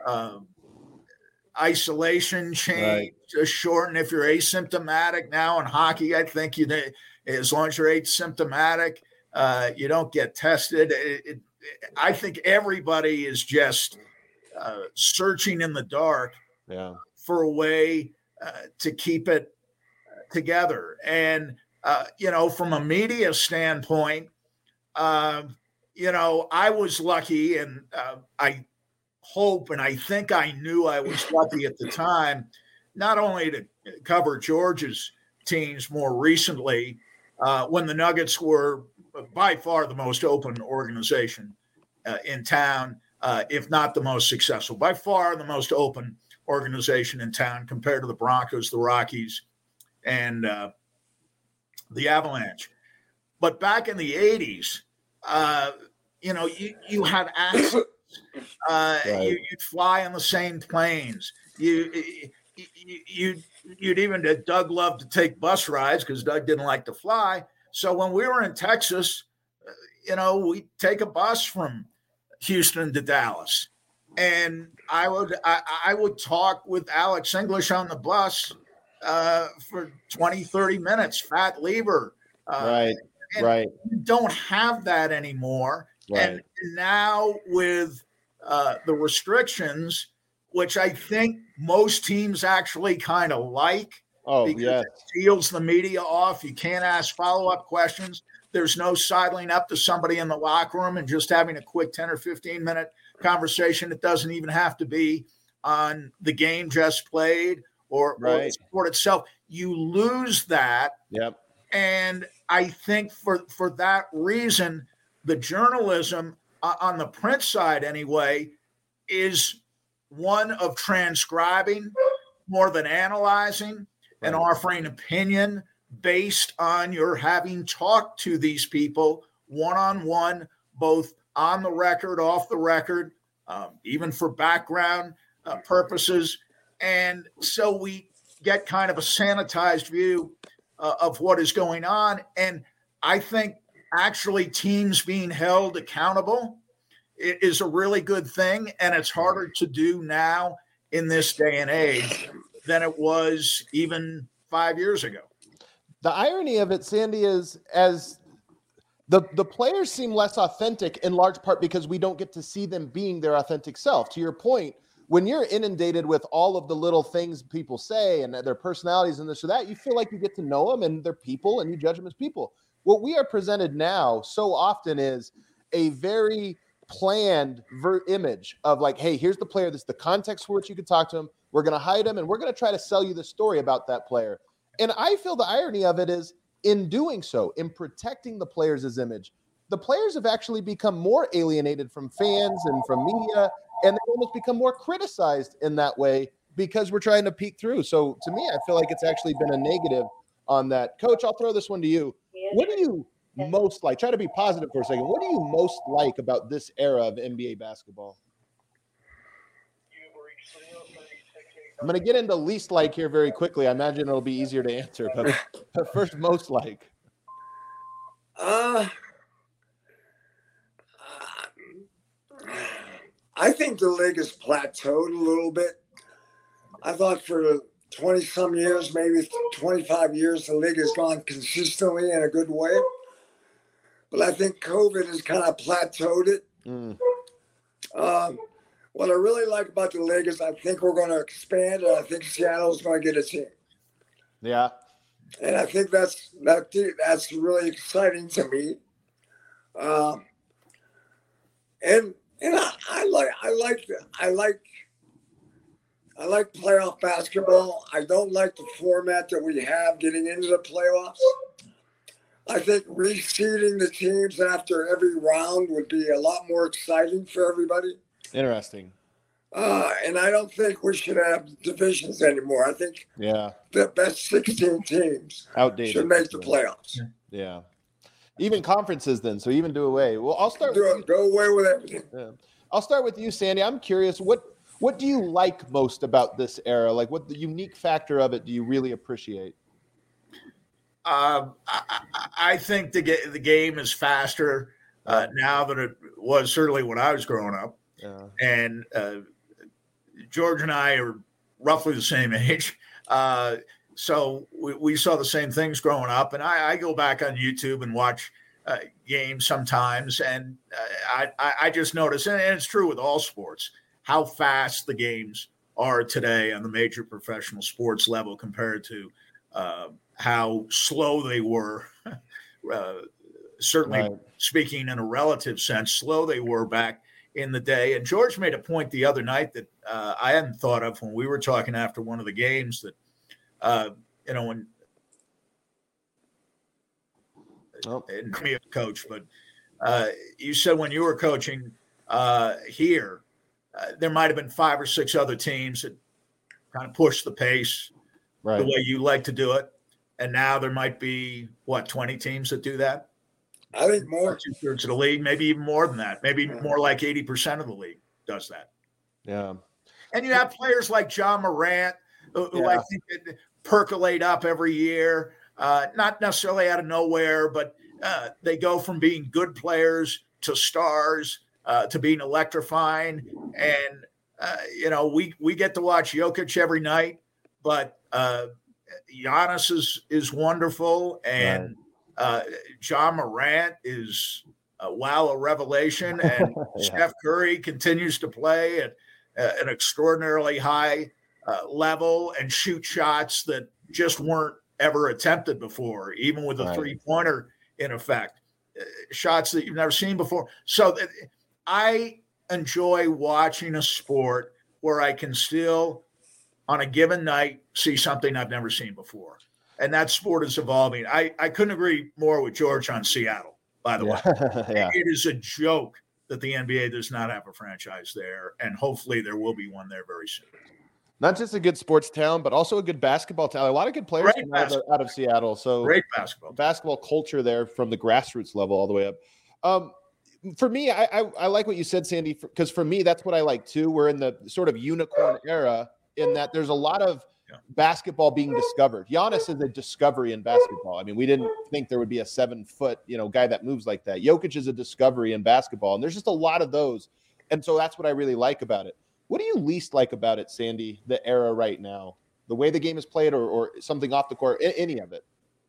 isolation change to shorten. If you're asymptomatic now in hockey, I think as long as you're asymptomatic, you don't get tested. I think everybody is just searching in the dark for a way to keep it together. And, from a media standpoint, I was lucky, and I hope, and I think I knew I was lucky at the time, not only to cover Georgia's teams more recently, when the Nuggets were by far the most open organization in town, if not the most successful, by far the most open organization in town compared to the Broncos, the Rockies, and the Avalanche. But back in the 80s, you had access. You'd fly on the same planes. You'd even Doug loved to take bus rides because Doug didn't like to fly. So when we were in Texas, we'd take a bus from Houston to Dallas, and I would talk with Alex English on the bus for 20, 30 minutes, Fat Lever. Right. You don't have that anymore. Right. And now with the restrictions, which I think most teams actually kind of like, because it seals the media off. You can't ask follow-up questions. There's no sidling up to somebody in the locker room and just having a quick 10 or 15-minute conversation. It doesn't even have to be on the game just played or the sport itself. You lose that. Yep. And I think for that reason, the journalism on the print side anyway is one of transcribing more than analyzing and offering opinion based on your having talked to these people one-on-one, both on the record, off the record, even for background purposes. And so we get kind of a sanitized view of what is going on. And I think actually teams being held accountable is a really good thing. And it's harder to do now in this day and age than it was even 5 years ago. The irony of it, Sandy, is as the players seem less authentic in large part because we don't get to see them being their authentic self. To your point, when you're inundated with all of the little things people say and their personalities and this or that, you feel like you get to know them and they're people and you judge them as people. What we are presented now so often is a very planned image of like, hey, here's the player. This is the context for which you can talk to him. We're going to hide him and we're going to try to sell you the story about that player. And I feel the irony of it is in doing so, in protecting the players' image, the players have actually become more alienated from fans and from media, and they almost become more criticized in that way because we're trying to peek through. So to me, I feel like it's actually been a negative on that. Coach, I'll throw this one to you. What do you most like? Try to be positive for a second. What do you most like about this era of NBA basketball? I'm going to get into least like here very quickly. I imagine it'll be easier to answer, but first, most like. I think the league has plateaued a little bit. I thought for the 20 some years, maybe 25 years, the league has gone consistently in a good way. But I think COVID has kind of plateaued it. What I really like about the league is I think we're going to expand, and I think Seattle's going to get a team. Yeah. And I think that's really exciting to me. And I like playoff basketball. I don't like the format that we have getting into the playoffs. I think reseeding the teams after every round would be a lot more exciting for everybody. Interesting. And I don't think we should have divisions anymore. I think the best 16 teams should make the playoffs. Yeah. Even conferences then, so even do away. Well, I'll start go away with everything. Yeah. I'll start with you, Sandy. I'm curious, what do you like most about this era? Like, what the unique factor of it do you really appreciate? I think the game is faster now than it was certainly when I was growing up. Yeah. And George and I are roughly the same age. So we saw the same things growing up. And I go back on YouTube and watch games sometimes. And I just notice, and it's true with all sports, how fast the games are today on the major professional sports level compared to how slow they were, certainly right. Speaking in a relative sense, slow they were back in the day. And George made a point the other night that I hadn't thought of when we were talking after one of the games that, when and me a coach, but you said when you were coaching here, there might have been 5 or 6 other teams that kind of pushed the pace the way you like to do it. And now there might be, 20 teams that do that? I think more. 2/3 of the league, maybe even more than that. Maybe more like 80% of the league does that. Yeah. And you have players like John Morant, who I think percolate up every year, not necessarily out of nowhere, but they go from being good players to stars to being electrifying. And, we get to watch Jokic every night, but Giannis is wonderful, and John Morant is a revelation, and Steph Curry continues to play at an extraordinarily high level and shoot shots that just weren't ever attempted before, even with a three-pointer in effect, shots that you've never seen before. So I enjoy watching a sport where I can still, on a given night, see something I've never seen before. And that sport is evolving. I couldn't agree more with George on Seattle, by the way. It is a joke that the NBA does not have a franchise there, and hopefully there will be one there very soon. Not just a good sports town, but also a good basketball town. A lot of good players out of Seattle. So great basketball culture there from the grassroots level all the way up. For me, I like what you said, Sandy, because for me, that's what I like too. We're in the sort of unicorn era in that there's a lot of basketball being discovered. Giannis is a discovery in basketball. I mean, we didn't think there would be a 7-foot, guy that moves like that. Jokic is a discovery in basketball, and there's just a lot of those. And so that's what I really like about it. What do you least like about it, Sandy, the era right now? The way the game is played or something off the court, any of it?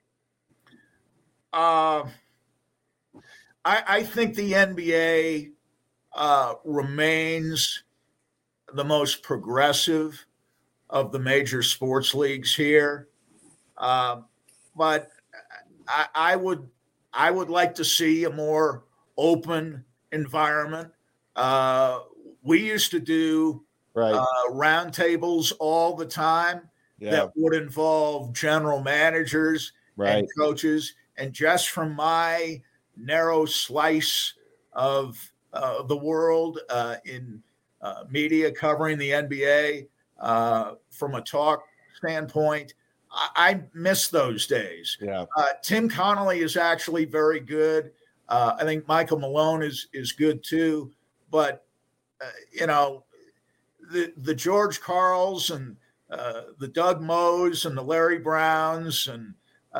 I think the NBA remains the most progressive of the major sports leagues here. But I would like to see a more open environment. We used to do roundtables all the time that would involve general managers and coaches. And just from my narrow slice of the world in media covering the NBA, from a talk standpoint, I miss those days. Tim Connolly is actually very good. I think Michael Malone is good too. But the George Karls and the Doug Moes and the Larry Browns and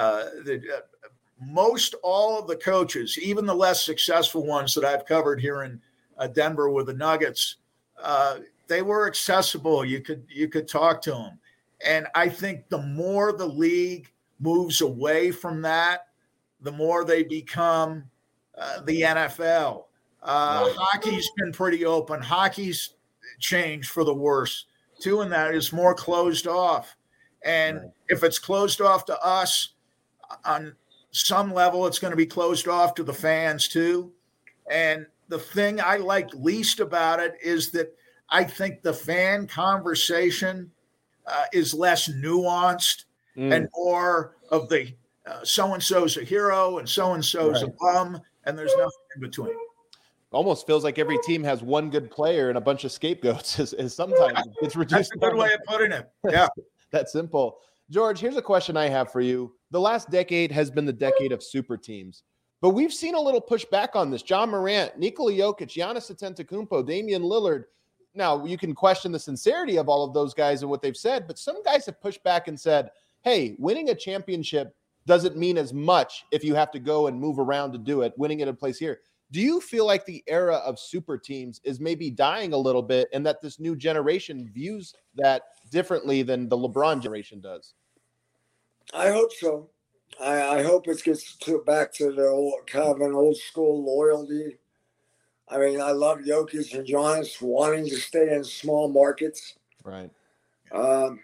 most all of the coaches, even the less successful ones that I've covered here in Denver with the Nuggets, they were accessible. You could talk to them. And I think the more the league moves away from that, the more they become the NFL. Hockey's been pretty open. Hockey's changed for the worse too, and that is more closed off. And if it's closed off to us on some level, it's going to be closed off to the fans too. And the thing I like least about it is that I think the fan conversation is less nuanced and more of the so-and-so's a hero and so-and-so's a bum, and there's nothing in between. Almost feels like every team has one good player and a bunch of scapegoats. Is sometimes it's reduced. That's a good way of putting it. Yeah, that simple. George, here's a question I have for you. The last decade has been the decade of super teams, but we've seen a little pushback on this. John Morant, Nikola Jokic, Giannis Antetokounmpo, Damian Lillard. Now, you can question the sincerity of all of those guys and what they've said, but some guys have pushed back and said, hey, winning a championship doesn't mean as much if you have to go and move around to do it, winning it in place here. Do you feel like the era of super teams is maybe dying a little bit and that this new generation views that differently than the LeBron generation does? I hope so. I hope it gets back to the old, kind of an old school loyalty. I mean, I love Jokic and Giannis wanting to stay in small markets. Right. But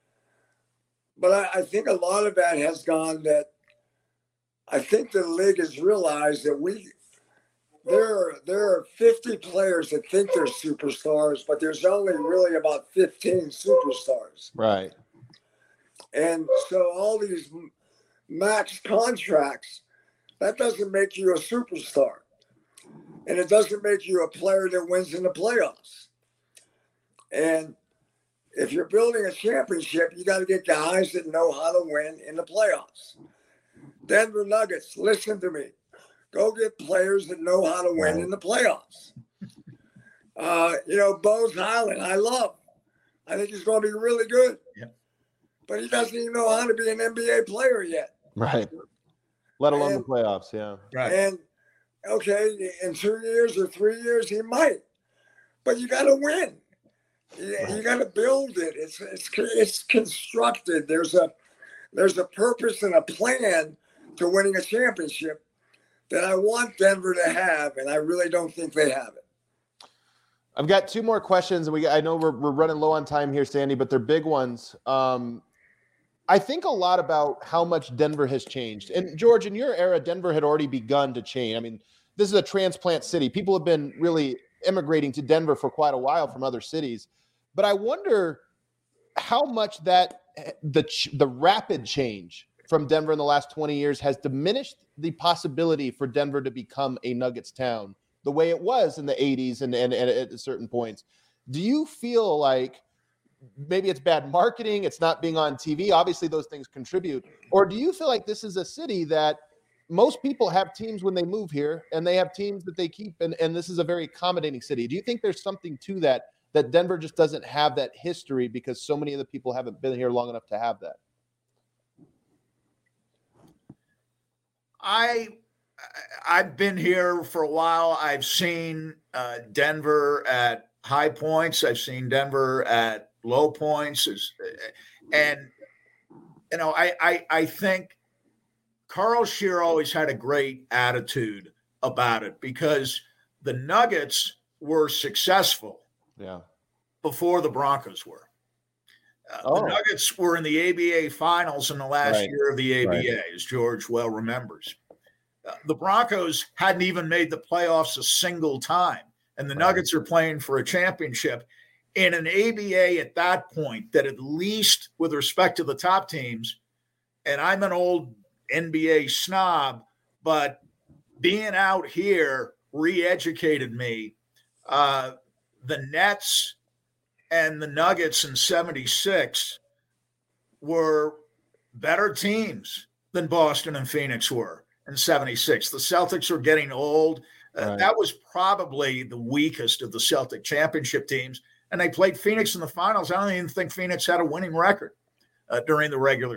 I think a lot of that has gone that I think the league has realized that there are 50 players that think they're superstars, but there's only really about 15 superstars. Right. And so all these max contracts, that doesn't make you a superstar. And it doesn't make you a player that wins in the playoffs. And if you're building a championship, you got to get guys that know how to win in the playoffs. Denver Nuggets, listen to me. Go get players that know how to win in the playoffs. Bones Highland, I love. I think he's going to be really good. Yeah. But he doesn't even know how to be an NBA player yet. Right. Let alone the playoffs, yeah. Right. And, okay, in 2 years or 3 years, he might. But you got to win. You got to build it. It's constructed. There's a purpose and a plan to winning a championship that I want Denver to have, and I really don't think they have it. I've got two more questions, and I know we're running low on time here, Sandy, but they're big ones. I think a lot about how much Denver has changed. And George, in your era, Denver had already begun to change. I mean, this is a transplant city. People have been really immigrating to Denver for quite a while from other cities. But I wonder how much that the rapid change from Denver in the last 20 years has diminished the possibility for Denver to become a Nuggets town the way it was in the 80s and at certain points. Do you feel like maybe it's bad marketing, it's not being on TV? Obviously, those things contribute. Or do you feel like this is a city that most people have teams when they move here and they have teams that they keep, and this is a very accommodating city? Do you think there's something to that Denver just doesn't have that history because so many of the people haven't been here long enough to have that? I've been here for a while. I've seen Denver at high points. I've seen Denver at low points. And, I think Carl Scheer always had a great attitude about it because the Nuggets were successful before the Broncos were. The Nuggets were in the ABA finals in the last year of the ABA, as George well remembers. The Broncos hadn't even made the playoffs a single time, and the Nuggets are playing for a championship in an ABA at that point that, at least with respect to the top teams, and I'm an old NBA snob, but being out here re-educated me. The Nets and the Nuggets in 76 were better teams than Boston and Phoenix were in 76. The Celtics were getting old. That was probably the weakest of the Celtic championship teams. And they played Phoenix in the finals. I don't even think Phoenix had a winning record during the regular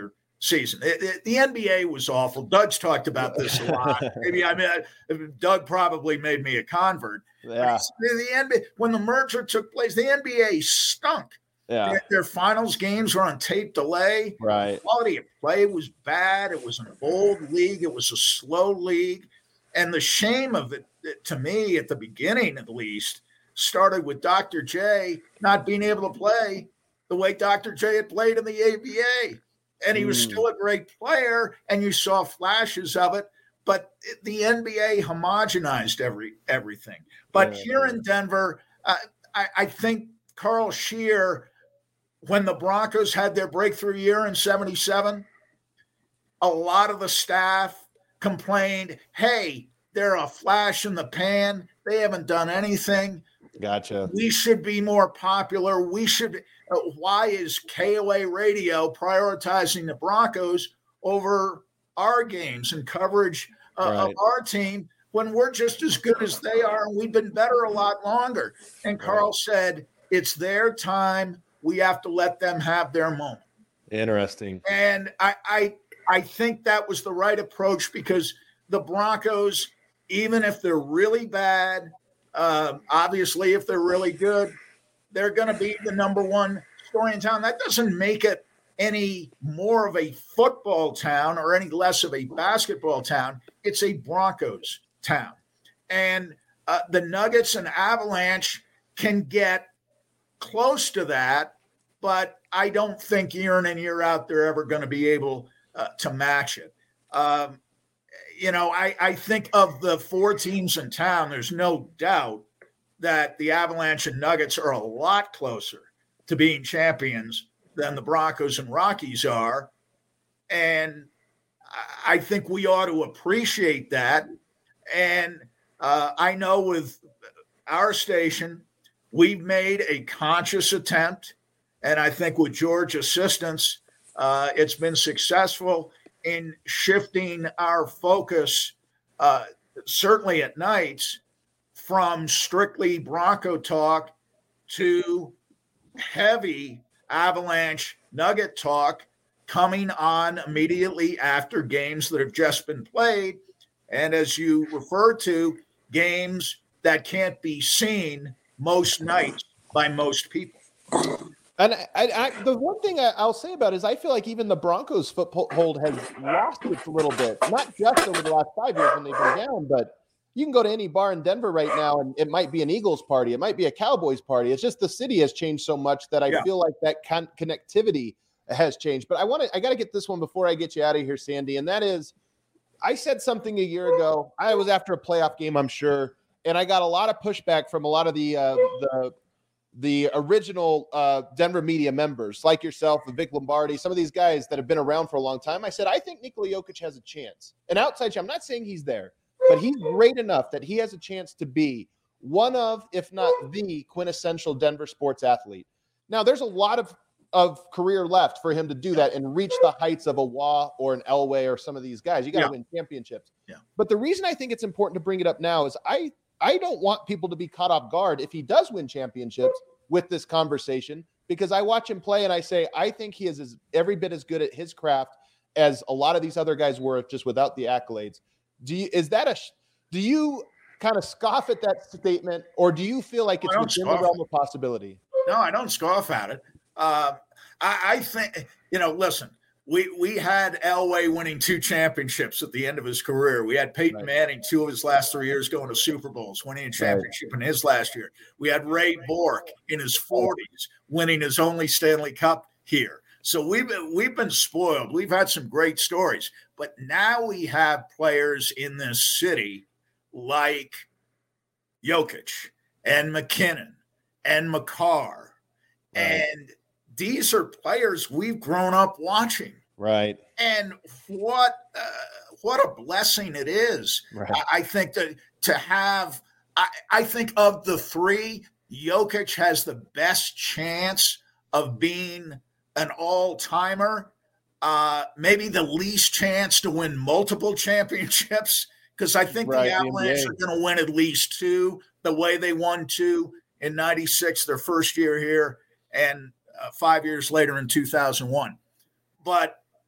season. The NBA was awful. Doug's talked about this a lot. Maybe Doug probably made me a convert. Yeah. The NBA, when the merger took place, the NBA stunk. Yeah. Their finals games were on tape delay. Right. The quality of play was bad. It was an old league. It was a slow league. And the shame of it, to me, at the beginning at least, started with Dr. J not being able to play the way Dr. J had played in the ABA. And he was still a great player, and you saw flashes of it. But the NBA homogenized everything. But here in Denver, I think Carl Scheer, when the Broncos had their breakthrough year in '77, a lot of the staff complained, hey, they're a flash in the pan. They haven't done anything. Gotcha. We should be more popular. We should. Why is KOA Radio prioritizing the Broncos over our games and coverage of our team when we're just as good as they are and we've been better a lot longer? And Carl said, it's their time. We have to let them have their moment. Interesting. And I think that was the right approach, because the Broncos, even if they're really bad, obviously if they're really good, they're going to be the number one story in town. That doesn't make it any more of a football town or any less of a basketball town. It's a Broncos town. And the Nuggets and Avalanche can get close to that, but I don't think year in and year out they're ever going to be able to match it. I think of the four teams in town, there's no doubt that the Avalanche and Nuggets are a lot closer to being champions than the Broncos and Rockies are. And I think we ought to appreciate that. And I know with our station, we've made a conscious attempt, and I think with George's assistance, it's been successful in shifting our focus, certainly at nights, from strictly Bronco talk to heavy Avalanche Nugget talk coming on immediately after games that have just been played. And as you referred to, games that can't be seen most nights by most people. And the one thing I'll say about it is I feel like even the Broncos foothold has lost its a little bit, not just over the last 5 years when they've been down, but you can go to any bar in Denver right now and it might be an Eagles party. It might be a Cowboys party. It's just the city has changed so much that I feel like that connectivity has changed. But I got to get this one before I get you out of here, Sandy. And that is, I said something a year ago. I was after a playoff game, I'm sure. And I got a lot of pushback from a lot of the original Denver media members like yourself and Vic Lombardi, some of these guys that have been around for a long time. I said, I think Nikola Jokic has a chance. An outside chance. I'm not saying he's there, but he's great enough that he has a chance to be one of, if not the quintessential Denver sports athlete. Now, there's a lot of career left for him to do that and reach the heights of a Waugh or an Elway or some of these guys. You got to win championships. Yeah. But the reason I think it's important to bring it up now is I don't want people to be caught off guard if he does win championships with this conversation, because I watch him play and I say, I think he is every bit as good at his craft as a lot of these other guys were just without the accolades. Do you kind of scoff at that statement, or do you feel like it's within the realm of possibility? No, I don't scoff at it. I think, listen, we had Elway winning 2 championships at the end of his career. We had Peyton Manning 2 of his last 3 years going to Super Bowls, winning a championship in his last year. We had Ray Bork in his 40s winning his only Stanley Cup here. So we've been spoiled. We've had some great stories, but now we have players in this city like Jokic and McKinnon and Makar, and these are players we've grown up watching. Right. And what a blessing it is. Right. I think to have, I think of the 3, Jokic has the best chance of being an all-timer, maybe the least chance to win multiple championships, because I think the Avalanche are going to win at least 2 the way they won 2 in '96, their first year here, and 5 years later in 2001. But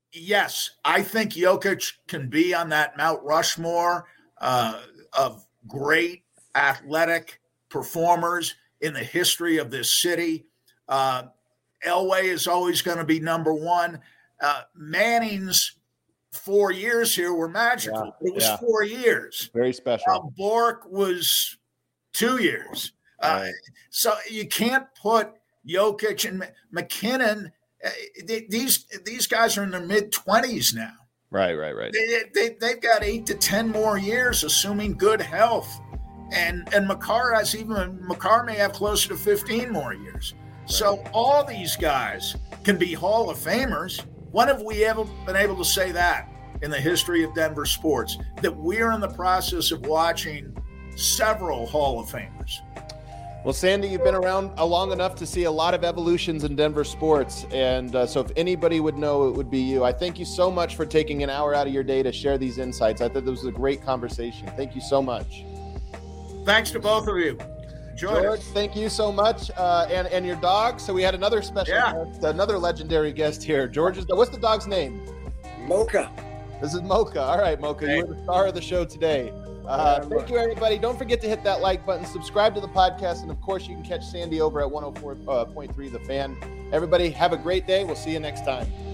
Yes, I think Jokic can be on that Mount Rushmore of great athletic performers in the history of this city. Elway is always going to be number one. Manning's 4 years here were magical. It was 4 years. Very special. Bork was 2 years. Right. So you can't put Jokic and McKinnon. These guys are in their mid-20s now. Right. They've got 8 to 10 more years, assuming good health. And McCarr may have closer to 15 more years. Right. So all these guys can be Hall of Famers. When have we ever been able to say that in the history of Denver sports, that we're in the process of watching several Hall of Famers? Well, Sandy, you've been around long enough to see a lot of evolutions in Denver sports. And so if anybody would know, it would be you. I thank you so much for taking an hour out of your day to share these insights. I thought this was a great conversation. Thank you so much. Thanks to both of you. George, thank you so much. And your dog. So we had another special guest, another legendary guest here. What's the dog's name? Mocha. This is Mocha. All right, Mocha, you're the star of the show today. Thank you, everybody. Don't forget to hit that like button, subscribe to the podcast, and of course, you can catch Sandy over at 104.3 The Fan. Everybody, have a great day. We'll see you next time.